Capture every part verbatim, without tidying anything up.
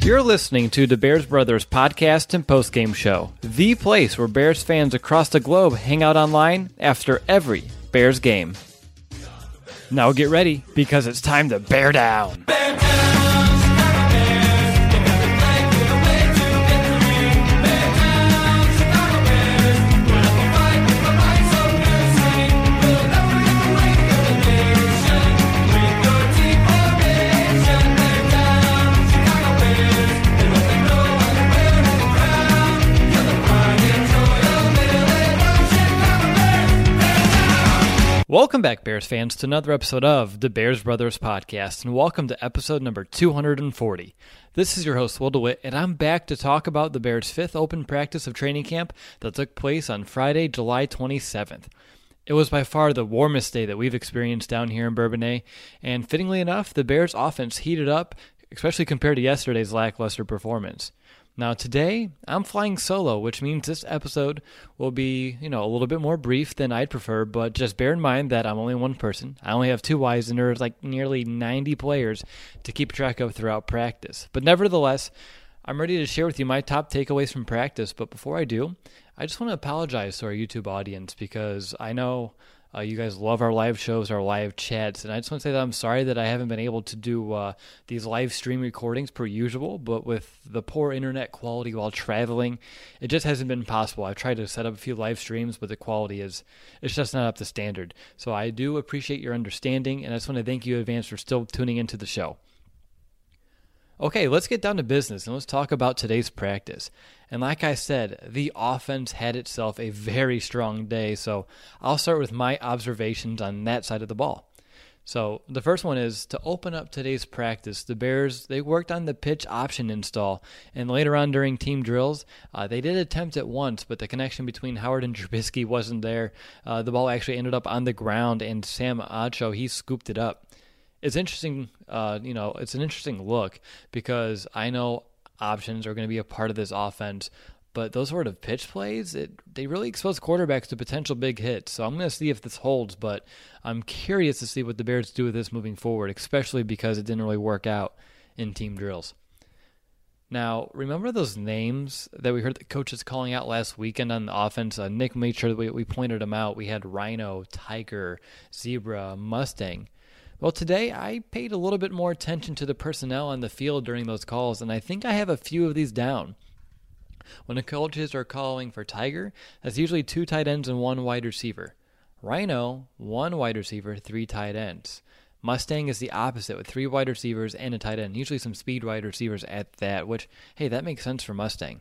You're listening to the Bears Brothers podcast and postgame show, the place where Bears fans across the globe hang out online after every Bears game. Now get ready, because it's time to bear down. Bear down! Welcome back, Bears fans, to another episode of the Bears Brothers podcast, and welcome to episode number two hundred forty. This is your host, Will DeWitt, and I'm back to talk about the Bears' fifth open practice of training camp that took place on Friday, July twenty-seventh. It was by far the warmest day that we've experienced down here in Bourbonnais, and fittingly enough, the Bears' offense heated up, especially compared to yesterday's lackluster performance. Now today, I'm flying solo, which means this episode will be, you know, a little bit more brief than I'd prefer, but just bear in mind that I'm only one person. I only have two wives, and there's like nearly ninety players to keep track of throughout practice. But nevertheless, I'm ready to share with you my top takeaways from practice, but before I do, I just want to apologize to our YouTube audience, because I know Uh, you guys love our live shows, our live chats, and I just want to say that I'm sorry that I haven't been able to do uh, these live stream recordings per usual, but with the poor internet quality while traveling, it just hasn't been possible. I've tried to set up a few live streams, but the quality is it's just not up to standard. So I do appreciate your understanding, and I just want to thank you in advance for still tuning into the show. Okay, let's get down to business, and let's talk about today's practice. And like I said, the offense had itself a very strong day, so I'll start with my observations on that side of the ball. So the first one is, to open up today's practice, the Bears, they worked on the pitch option install, and later on during team drills, uh, they did attempt it once, but the connection between Howard and Trubisky wasn't there. Uh, the ball actually ended up on the ground, and Sam Acho, he scooped it up. It's interesting, uh, you know, it's an interesting look, because I know options are going to be a part of this offense, but those sort of pitch plays, it, they really expose quarterbacks to potential big hits. So I'm going to see if this holds, but I'm curious to see what the Bears do with this moving forward, especially because it didn't really work out in team drills. Now, remember those names that we heard the coaches calling out last weekend on the offense? Uh, Nick made sure that we, we pointed them out. We had Rhino, Tiger, Zebra, Mustang. Well, today I paid a little bit more attention to the personnel on the field during those calls, and I think I have a few of these down. When the coaches are calling for Tiger, that's usually two tight ends and one wide receiver. Rhino, one wide receiver, three tight ends. Mustang is the opposite, with three wide receivers and a tight end, usually some speed wide receivers at that, which, hey, that makes sense for Mustang.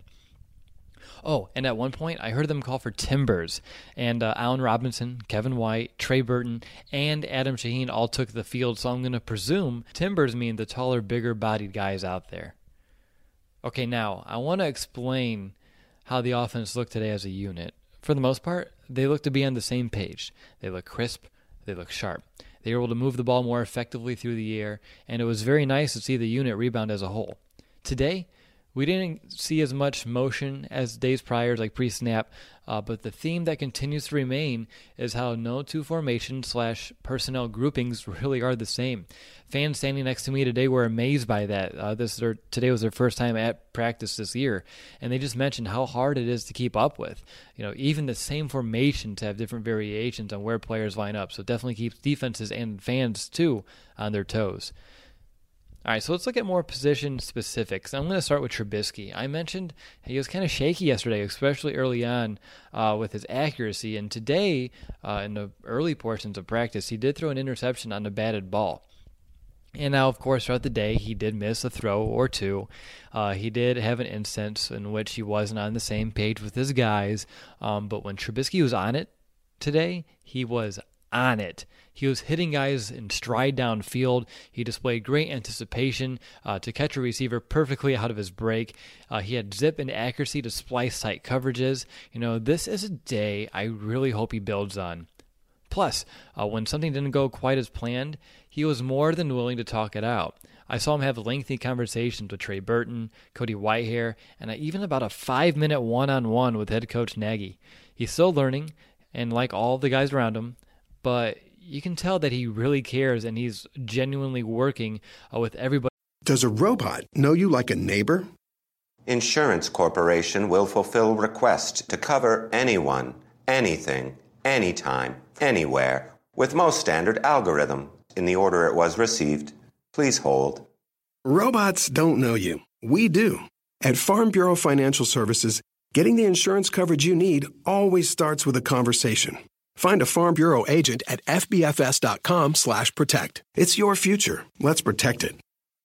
Oh, and at one point, I heard them call for Timbers, and uh, Allen Robinson, Kevin White, Trey Burton, and Adam Shaheen all took the field, so I'm going to presume Timbers mean the taller, bigger-bodied guys out there. Okay, now, I want to explain how the offense looked today as a unit. For the most part, they look to be on the same page. They look crisp, they look sharp. They were able to move the ball more effectively through the air, and it was very nice to see the unit rebound as a whole. Today, we didn't see as much motion as days prior, like pre-snap, uh, but the theme that continues to remain is how no two formation slash personnel groupings really are the same. Fans standing next to me today were amazed by that. Uh, this is their, today was their first time at practice this year, and they just mentioned how hard it is to keep up with. You know, even the same formations have different variations on where players line up, so it definitely keeps defenses and fans too on their toes. All right, so let's look at more position specifics. I'm going to start with Trubisky. I mentioned he was kind of shaky yesterday, especially early on uh, with his accuracy. And today, uh, in the early portions of practice, he did throw an interception on a batted ball. And now, of course, throughout the day, he did miss a throw or two. Uh, he did have an instance in which he wasn't on the same page with his guys. Um, but when Trubisky was on it today, he was on it. He was hitting guys in stride downfield. He displayed great anticipation uh, to catch a receiver perfectly out of his break. Uh, he had zip and accuracy to splice tight coverages. You know, this is a day I really hope he builds on. Plus, uh, when something didn't go quite as planned, he was more than willing to talk it out. I saw him have lengthy conversations with Trey Burton, Cody Whitehair, and even about a five-minute one-on-one with head coach Nagy. He's still learning, and like all the guys around him, but you can tell that he really cares and he's genuinely working uh, with everybody Does a robot know you like a neighbor? Insurance Corporation will fulfill request to cover anyone, anything, anytime, anywhere, with most standard algorithm in the order it was received. Please hold. Robots don't know you. We do. At Farm Bureau Financial Services, getting the insurance coverage you need always starts with a conversation. Find a Farm Bureau agent at fbfs.com slash protect. It's your future. Let's protect it.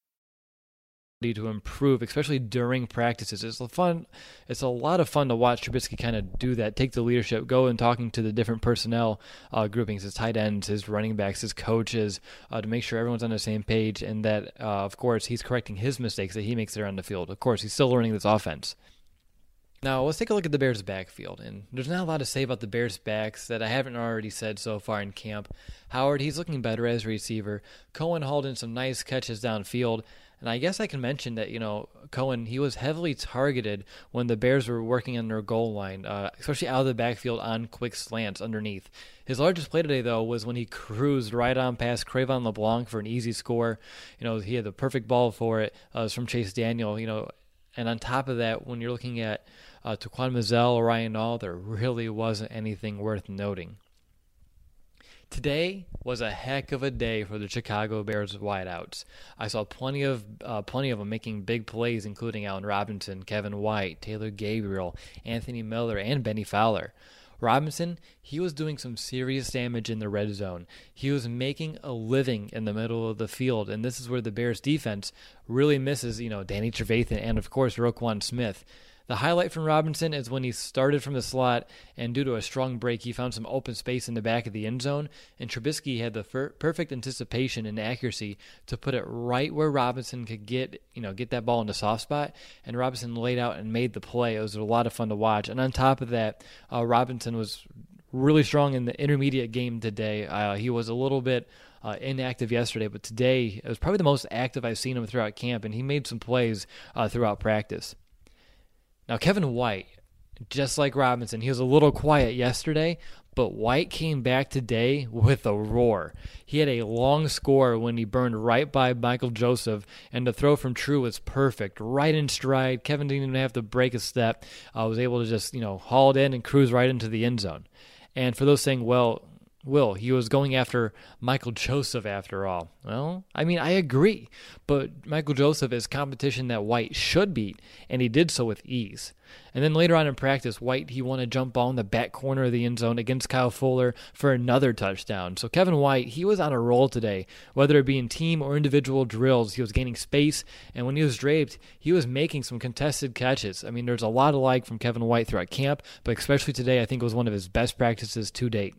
To improve, especially during practices. It's a fun. It's a lot of fun to watch Trubisky kind of do that, take the leadership, go and talking to the different personnel uh, groupings, his tight ends, his running backs, his coaches, uh, to make sure everyone's on the same page, and that, uh, of course, he's correcting his mistakes that he makes there on the field. Of course, he's still learning this offense. Now, let's take a look at the Bears' backfield, and there's not a lot to say about the Bears' backs that I haven't already said so far in camp. Howard, he's looking better as a receiver. Cohen hauled in some nice catches downfield. And I guess I can mention that, you know, Cohen, he was heavily targeted when the Bears were working on their goal line, uh, especially out of the backfield on quick slants underneath. His largest play today, though, was when he cruised right on past Cre'Von LeBlanc for an easy score. You know, he had the perfect ball for it. Uh, it was from Chase Daniel, you know. And on top of that, when you're looking at uh, Taquan Mizzell or Ryan Nall, there really wasn't anything worth noting. Today was a heck of a day for the Chicago Bears wideouts. I saw plenty of uh, plenty of them making big plays, including Allen Robinson, Kevin White, Taylor Gabriel, Anthony Miller, and Benny Fowler. Robinson, he was doing some serious damage in the red zone. He was making a living in the middle of the field, and this is where the Bears defense really misses, you know, Danny Trevathan and, of course, Roquan Smith. The highlight from Robinson is when he started from the slot, and due to a strong break, he found some open space in the back of the end zone, and Trubisky had the fer- perfect anticipation and accuracy to put it right where Robinson could get, you know, get that ball in the soft spot, and Robinson laid out and made the play. It was a lot of fun to watch, and on top of that, uh, Robinson was really strong in the intermediate game today. Uh, he was a little bit uh, inactive yesterday, but today it was probably the most active I've seen him throughout camp, and he made some plays uh, throughout practice. Now, Kevin White, just like Robinson, he was a little quiet yesterday, but White came back today with a roar. He had a long score when he burned right by Michael Joseph, and the throw from True was perfect, right in stride. Kevin didn't even have to break a step. I uh, was able to just, you know, haul it in and cruise right into the end zone. And for those saying, well, Will, he was going after Michael Joseph after all. Well, I mean, I agree, but Michael Joseph is competition that White should beat, and he did so with ease. And then later on in practice, White, he won a jump ball in the back corner of the end zone against Kyle Fuller for another touchdown. So Kevin White, he was on a roll today. Whether it be in team or individual drills, he was gaining space, and when he was draped, he was making some contested catches. I mean, there's a lot of like from Kevin White throughout camp, but especially today, I think it was one of his best practices to date.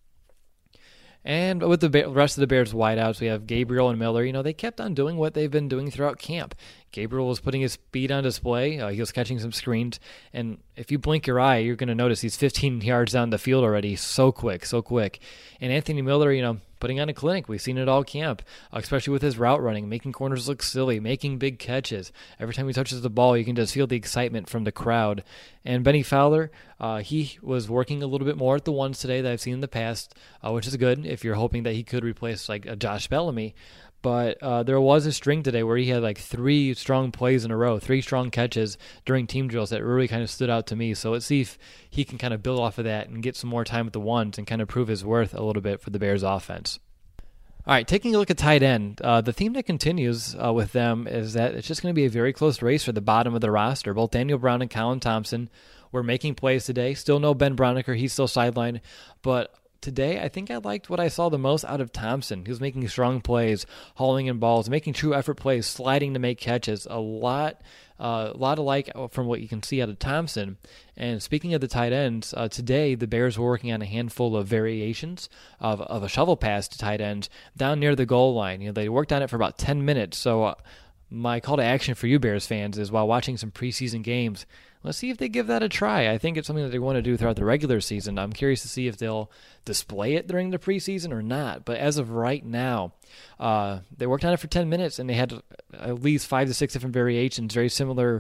And with the rest of the Bears wideouts, we have Gabriel and Miller. You know, they kept on doing what they've been doing throughout camp. Gabriel was putting his speed on display. Uh, he was catching some screens. And if you blink your eye, you're going to notice he's fifteen yards down the field already. So quick, so quick. And Anthony Miller, you know, putting on a clinic. We've seen it all camp, especially with his route running, making corners look silly, making big catches. Every time he touches the ball, you can just feel the excitement from the crowd. And Benny Fowler, uh, he was working a little bit more at the ones today that I've seen in the past, uh, which is good if you're hoping that he could replace like a Josh Bellamy. But uh, there was a string today where he had like three strong plays in a row, three strong catches during team drills that really kind of stood out to me. So let's see if he can kind of build off of that and get some more time with the ones and kind of prove his worth a little bit for the Bears offense. All right, taking a look at tight end, uh, the theme that continues uh, with them is that it's just going to be a very close race for the bottom of the roster. Both Daniel Brown and Colin Thompson were making plays today. Still no Ben Braunecker. He's still sidelined. But today, I think I liked what I saw the most out of Thompson. He was making strong plays, hauling in balls, making true effort plays, sliding to make catches. A lot uh, a lot alike from what you can see out of Thompson. And speaking of the tight ends, uh, today the Bears were working on a handful of variations of, of a shovel pass to tight ends down near the goal line. You know, they worked on it for about ten minutes. So uh, my call to action for you Bears fans is while watching some preseason games, let's see if they give that a try. I think it's something that they want to do throughout the regular season. I'm curious to see if they'll display it during the preseason or not. But as of right now, uh, they worked on it for ten minutes, and they had at least five to six different variations, very similar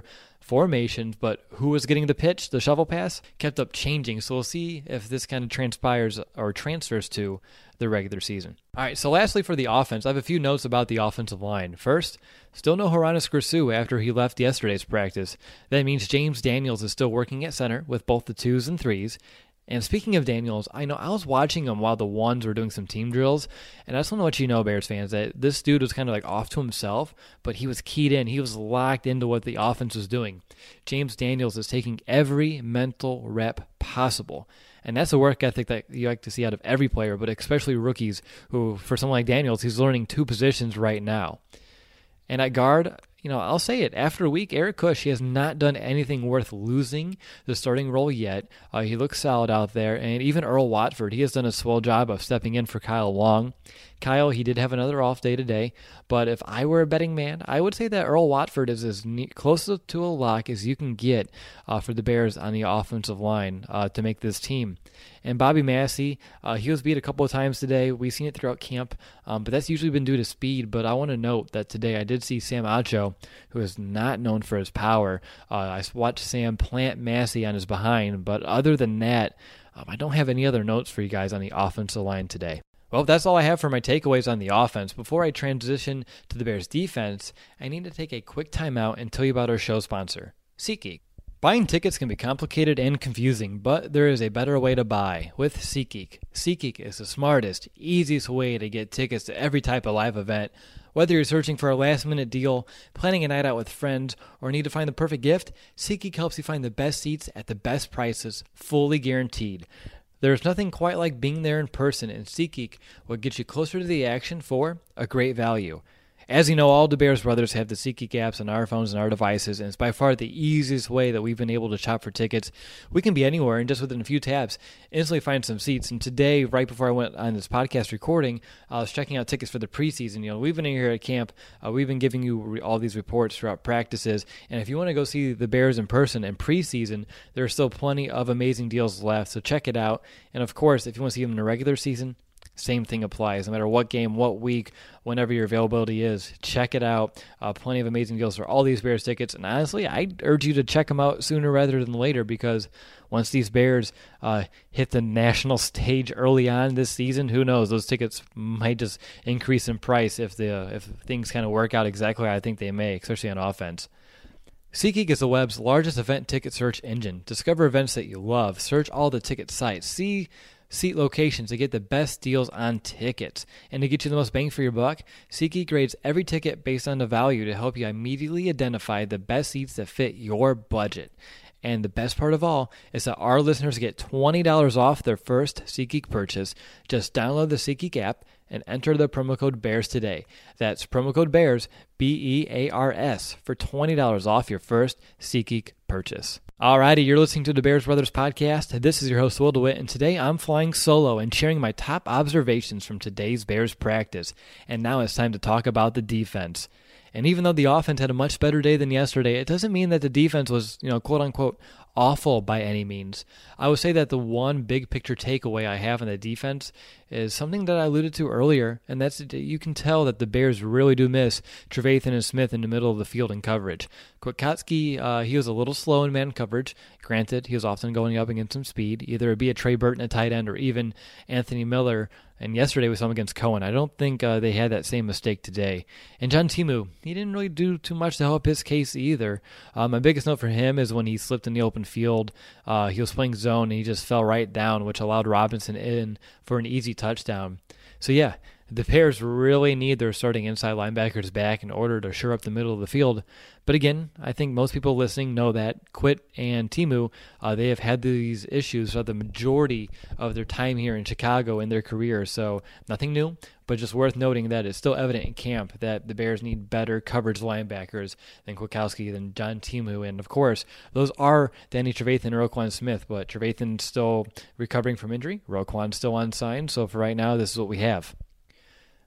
formations, but who was getting the pitch, the shovel pass, kept up changing. So we'll see if this kind of transpires or transfers to the regular season. All right, so lastly for the offense, I have a few notes about the offensive line. First, still no Hronis Grisou after he left yesterday's practice. That means James Daniels is still working at center with both the twos and threes. And speaking of Daniels, I know I was watching him while the ones were doing some team drills, and I just want to let you know, Bears fans, that this dude was kind of like off to himself, but he was keyed in. He was locked into what the offense was doing. James Daniels is taking every mental rep possible. And that's a work ethic that you like to see out of every player, but especially rookies who, for someone like Daniels, he's learning two positions right now. And at guard, you know, I'll say it. After a week, Eric Kush, he has not done anything worth losing the starting role yet. Uh, he looks solid out there. And even Earl Watford, he has done a swell job of stepping in for Kyle Long. Kyle, he did have another off day today. But if I were a betting man, I would say that Earl Watford is as ne- close to a lock as you can get uh, for the Bears on the offensive line uh, to make this team. And Bobby Massey, uh, he was beat a couple of times today. We've seen it throughout camp, um, but that's usually been due to speed. But I want to note that today I did see Sam Acho, who is not known for his power. Uh, I watched Sam plant Massey on his behind, but other than that, um, I don't have any other notes for you guys on the offensive line today. Well, that's all I have for my takeaways on the offense. Before I transition to the Bears' defense, I need to take a quick timeout and tell you about our show sponsor, SeatGeek. Buying tickets can be complicated and confusing, but there is a better way to buy with SeatGeek. SeatGeek is the smartest, easiest way to get tickets to every type of live event. Whether you're searching for a last-minute deal, planning a night out with friends, or need to find the perfect gift, SeatGeek helps you find the best seats at the best prices, fully guaranteed. There's nothing quite like being there in person, and SeatGeek will get you closer to the action for a great value. As you know, all the Bears brothers have the SeatGeek apps on our phones and our devices, and it's by far the easiest way that we've been able to shop for tickets. We can be anywhere, and just within a few taps, instantly find some seats. And today, right before I went on this podcast recording, I was checking out tickets for the preseason. You know, we've been here at camp. Uh, we've been giving you re- all these reports throughout practices, and if you want to go see the Bears in person in preseason, there are still plenty of amazing deals left, so check it out. And of course, if you want to see them in the regular season, same thing applies. No matter what game, what week, whenever your availability is, check it out. Uh, plenty of amazing deals for all these Bears tickets. And honestly, I urge you to check them out sooner rather than later, because once these Bears uh, hit the national stage early on this season, who knows? Those tickets might just increase in price if the if things kind of work out exactly how I think they may, especially on offense. SeatGeek is the web's largest event ticket search engine. Discover events that you love. Search all the ticket sites. See seat locations to get the best deals on tickets. And to get you the most bang for your buck, SeatGeek grades every ticket based on the value to help you immediately identify the best seats that fit your budget. And the best part of all is that our listeners get twenty dollars off their first SeatGeek purchase. Just download the SeatGeek app and enter the promo code BEARS today. That's promo code BEARS, B E A R S, for twenty dollars off your first SeatGeek purchase. Alrighty, you're listening to the Bears Brothers podcast. This is your host, Will DeWitt, and today I'm flying solo and sharing my top observations from today's Bears practice. And now it's time to talk about the defense. And even though the offense had a much better day than yesterday, it doesn't mean that the defense was, you know, quote unquote, awful by any means. I would say that the one big picture takeaway I have on the defense is something that I alluded to earlier, and that's that you can tell that the Bears really do miss Trevathan and Smith in the middle of the field in coverage. Kwiatkowski, uh, he was a little slow in man coverage. Granted, he was often going up against some speed, either it be a Trey Burton at tight end or even Anthony Miller. And yesterday we saw him against Cohen. I don't think uh, they had that same mistake today. And John Timu, he didn't really do too much to help his case either. Uh, my biggest note for him is when he slipped in the open field. Uh, he was playing zone and he just fell right down, which allowed Robinson in for an easy touchdown. So yeah, the Bears really need their starting inside linebackers back in order to shore up the middle of the field. But again, I think most people listening know that Quit and Timu, uh, they have had these issues for the majority of their time here in Chicago in their career. So nothing new, but just worth noting that it's still evident in camp that the Bears need better coverage linebackers than Kwiatkowski, than John Timu. And of course, those are Danny Trevathan and Roquan Smith, but Trevathan's still recovering from injury. Roquan's still unsigned. So for right now, this is what we have.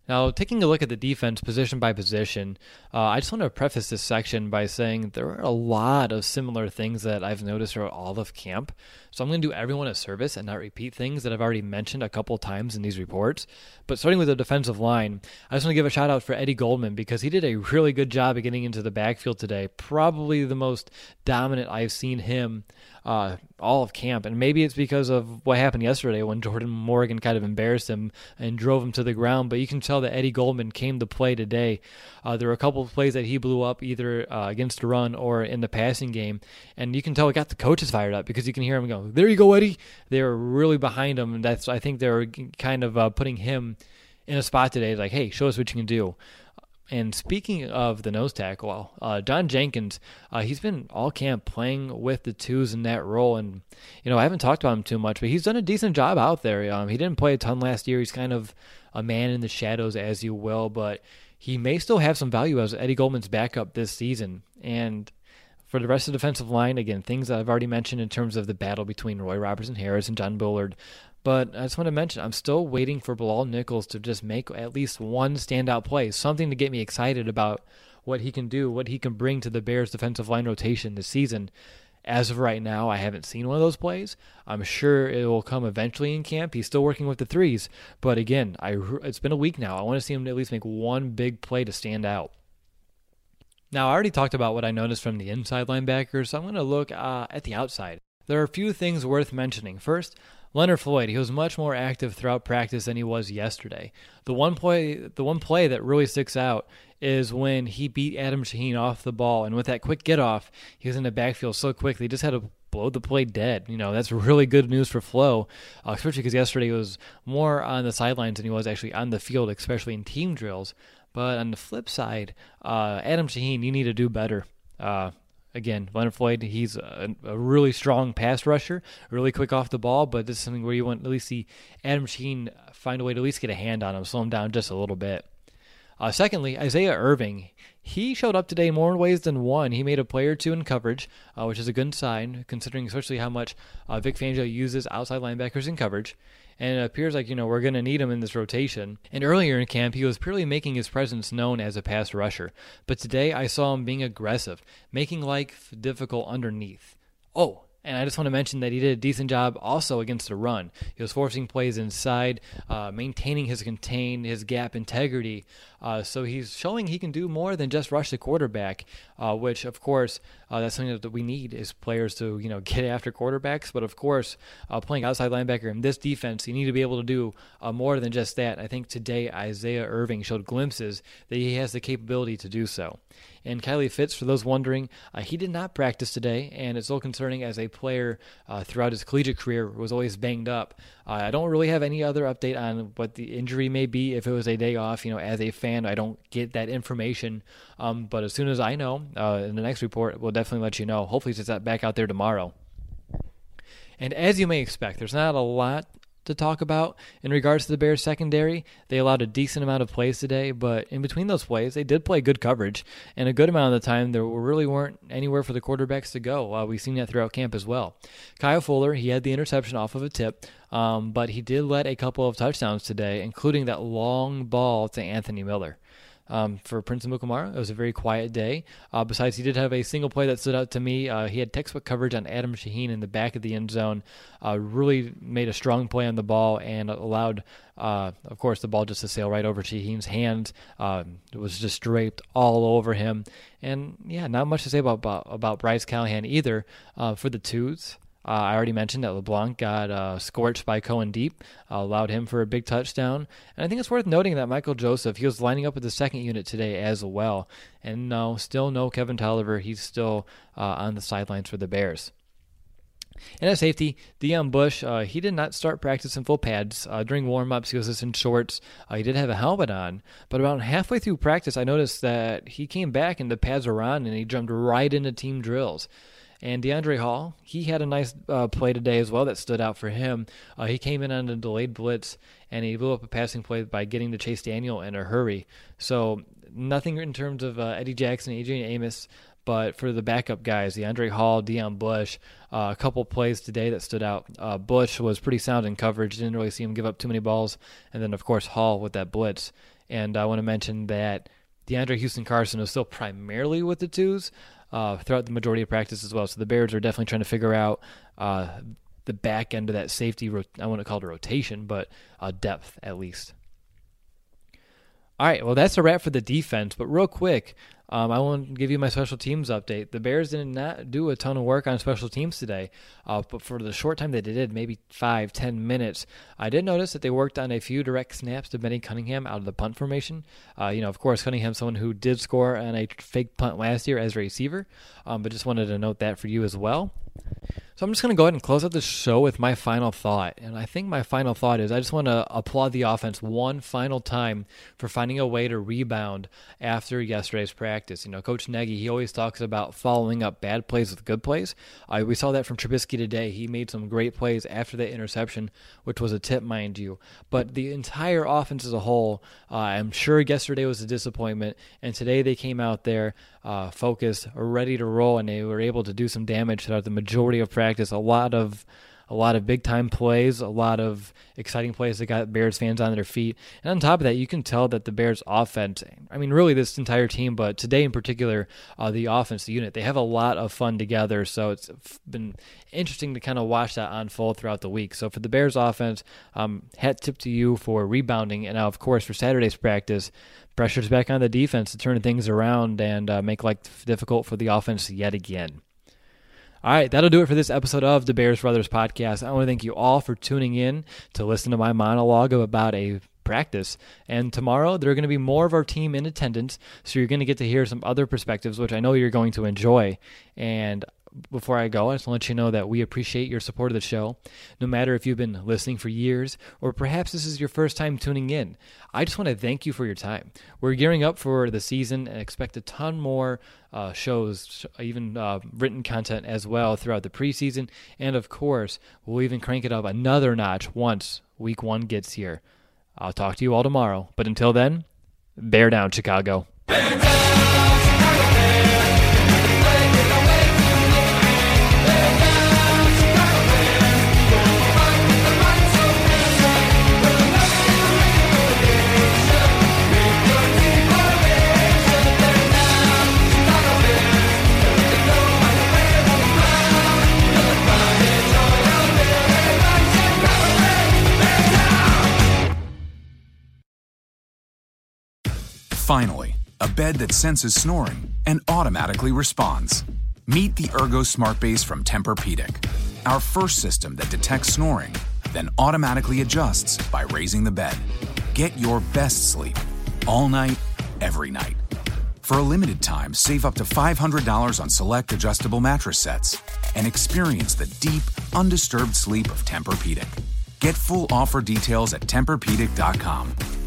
Now, taking a look at the defense position by position, uh, I just want to preface this section by saying there are a lot of similar things that I've noticed throughout all of camp. So I'm going to do everyone a service and not repeat things that I've already mentioned a couple times in these reports. But starting with the defensive line, I just want to give a shout out for Eddie Goldman because he did a really good job of getting into the backfield today. Probably the most dominant I've seen him uh, all of camp. And maybe it's because of what happened yesterday when Jordan Morgan kind of embarrassed him and drove him to the ground. But you can tell that Eddie Goldman came to play today. Uh, there were a couple of plays that he blew up either uh, against the run or in the passing game. And you can tell it got the coaches fired up because you can hear him go, "There you go, Eddie." They were really behind him. And that's, I think they were kind of uh, putting him in a spot today like, hey, show us what you can do. And speaking of the nose tackle, uh, Don Jenkins, uh, he's been all camp playing with the twos in that role. And, you know, I haven't talked about him too much, but he's done a decent job out there. Um, he didn't play a ton last year. He's kind of a man in the shadows, as you will, but he may still have some value as Eddie Goldman's backup this season. And for the rest of the defensive line, again, things that I've already mentioned in terms of the battle between Roy Robertson Harris and John Bullard. But I just want to mention, I'm still waiting for Bilal Nichols to just make at least one standout play, something to get me excited about what he can do, what he can bring to the Bears' defensive line rotation this season. As of right now, I haven't seen one of those plays. I'm sure it will come eventually in camp. He's still working with the threes. But again, I, it's been a week now. I want to see him at least make one big play to stand out. Now, I already talked about what I noticed from the inside linebackers, so I'm going to look uh, at the outside. There are a few things worth mentioning. First, Leonard Floyd, he was much more active throughout practice than he was yesterday. The one play the one play that really sticks out is when he beat Adam Shaheen off the ball, and with that quick get-off, he was in the backfield so quickly, he just had to blow the play dead. You know, that's really good news for Flo, uh, especially because yesterday he was more on the sidelines than he was actually on the field, especially in team drills. But on the flip side, uh, Adam Shaheen, you need to do better. Uh Again, Leonard Floyd, he's a, a really strong pass rusher, really quick off the ball, but this is something where you want to at least see Adam Shaheen find a way to at least get a hand on him, slow him down just a little bit. Uh, secondly, Isaiah Irving, he showed up today more ways than one. He made a play or two in coverage, uh, which is a good sign, considering especially how much uh, Vic Fangio uses outside linebackers in coverage. And it appears like, you know, we're going to need him in this rotation. And earlier in camp, he was purely making his presence known as a pass rusher. But today, I saw him being aggressive, making life difficult underneath. Oh, and I just want to mention that he did a decent job also against the run. He was forcing plays inside, uh, maintaining his contain, his gap integrity. Uh, so he's showing he can do more than just rush the quarterback, uh, which, of course, uh, that's something that we need is players to, you know, get after quarterbacks. But, of course, uh, playing outside linebacker in this defense, you need to be able to do uh, more than just that. I think today Isaiah Irving showed glimpses that he has the capability to do so. And Kylie Fitz, for those wondering, uh, he did not practice today, and it's so concerning as a player uh, throughout his collegiate career was always banged up. Uh, I don't really have any other update on what the injury may be if it was a day off. You know, as a fan, I don't get that information. Um, but as soon as I know, uh, in the next report, we'll definitely let you know. Hopefully it's back out there tomorrow. And as you may expect, there's not a lot to talk about in regards to the Bears secondary. They allowed a decent amount of plays today, but in between those plays, they did play good coverage, and a good amount of the time there really weren't anywhere for the quarterbacks to go. Uh, we've seen that throughout camp as well. Kyle Fuller, he had the interception off of a tip, um, but he did let a couple of touchdowns today, including that long ball to Anthony Miller. Um, for Prince Amukamara, it was a very quiet day. Uh, besides, he did have a single play that stood out to me. Uh, he had textbook coverage on Adam Shaheen in the back of the end zone. Uh, really made a strong play on the ball and allowed, uh, of course, the ball just to sail right over Shaheen's hands. Uh, it was just draped all over him. And, yeah, not much to say about about, about Bryce Callahan either uh, for the twos. Uh, I already mentioned that LeBlanc got uh, scorched by Cohen Deep, uh, allowed him for a big touchdown. And I think it's worth noting that Michael Joseph, he was lining up with the second unit today as well. And no, still no Kevin Tolliver. He's still uh, on the sidelines for the Bears. And at safety, Deion Bush, uh, he did not start practice in full pads. Uh, during warm-ups, he was just in shorts. Uh, he did have a helmet on. But about halfway through practice, I noticed that he came back and the pads were on, and he jumped right into team drills. And DeAndre Hall, he had a nice uh, play today as well that stood out for him. Uh, he came in on a delayed blitz, and he blew up a passing play by getting to Chase Daniel in a hurry. So nothing in terms of uh, Eddie Jackson, Adrian Amos, but for the backup guys, DeAndre Hall, Deion Bush, uh, a couple plays today that stood out. Uh, Bush was pretty sound in coverage, didn't really see him give up too many balls. And then, of course, Hall with that blitz. And I want to mention that DeAndre Houston Carson is still primarily with the twos uh, throughout the majority of practice as well. So the Bears are definitely trying to figure out uh, the back end of that safety, rot- I want to call it a rotation, but uh, depth at least. All right, well, that's a wrap for the defense. But real quick, um, I want to give you my special teams update. The Bears did not do a ton of work on special teams today, uh, but for the short time that they did, maybe five, ten minutes, I did notice that they worked on a few direct snaps to Benny Cunningham out of the punt formation. Uh, you know, of course, Cunningham's someone who did score on a fake punt last year as a receiver, um, but just wanted to note that for you as well. So I'm just going to go ahead and close out the show with my final thought. And I think my final thought is I just want to applaud the offense one final time for finding a way to rebound after yesterday's practice. You know, Coach Nagy, he always talks about following up bad plays with good plays. Uh, we saw that from Trubisky today. He made some great plays after that interception, which was a tip, mind you. But the entire offense as a whole, uh, I'm sure yesterday was a disappointment. And today they came out there uh, focused, ready to roll, and they were able to do some damage throughout the majority of practice. A lot of a lot of big-time plays, a lot of exciting plays that got Bears fans on their feet. And on top of that, you can tell that the Bears offense, I mean, really this entire team, but today in particular, uh, the offense, the unit, they have a lot of fun together. So it's been interesting to kind of watch that unfold throughout the week. So for the Bears offense, um, hat tip to you for rebounding. And now, of course, for Saturday's practice, pressure's back on the defense to turn things around and uh, make life difficult for the offense yet again. All right, that'll do it for this episode of the Bears Brothers Podcast. I want to thank you all for tuning in to listen to my monologue about a practice. And tomorrow, there are going to be more of our team in attendance, so you're going to get to hear some other perspectives, which I know you're going to enjoy. And before I go, I just want to let you know that we appreciate your support of the show, no matter if you've been listening for years or perhaps this is your first time tuning in. I just want to thank you for your time. We're gearing up for the season and expect a ton more uh, shows, even uh, written content as well throughout the preseason. And of course, we'll even crank it up another notch once week one gets here. I'll talk to you all tomorrow. But until then, bear down, Chicago. Bear down, Chicago Bears. Finally, a bed that senses snoring and automatically responds. Meet the Ergo Smart Base from Tempur-Pedic, our first system that detects snoring, then automatically adjusts by raising the bed. Get your best sleep, all night, every night. For a limited time, save up to five hundred dollars on select adjustable mattress sets and experience the deep, undisturbed sleep of Tempur-Pedic. Get full offer details at Tempur Pedic dot com.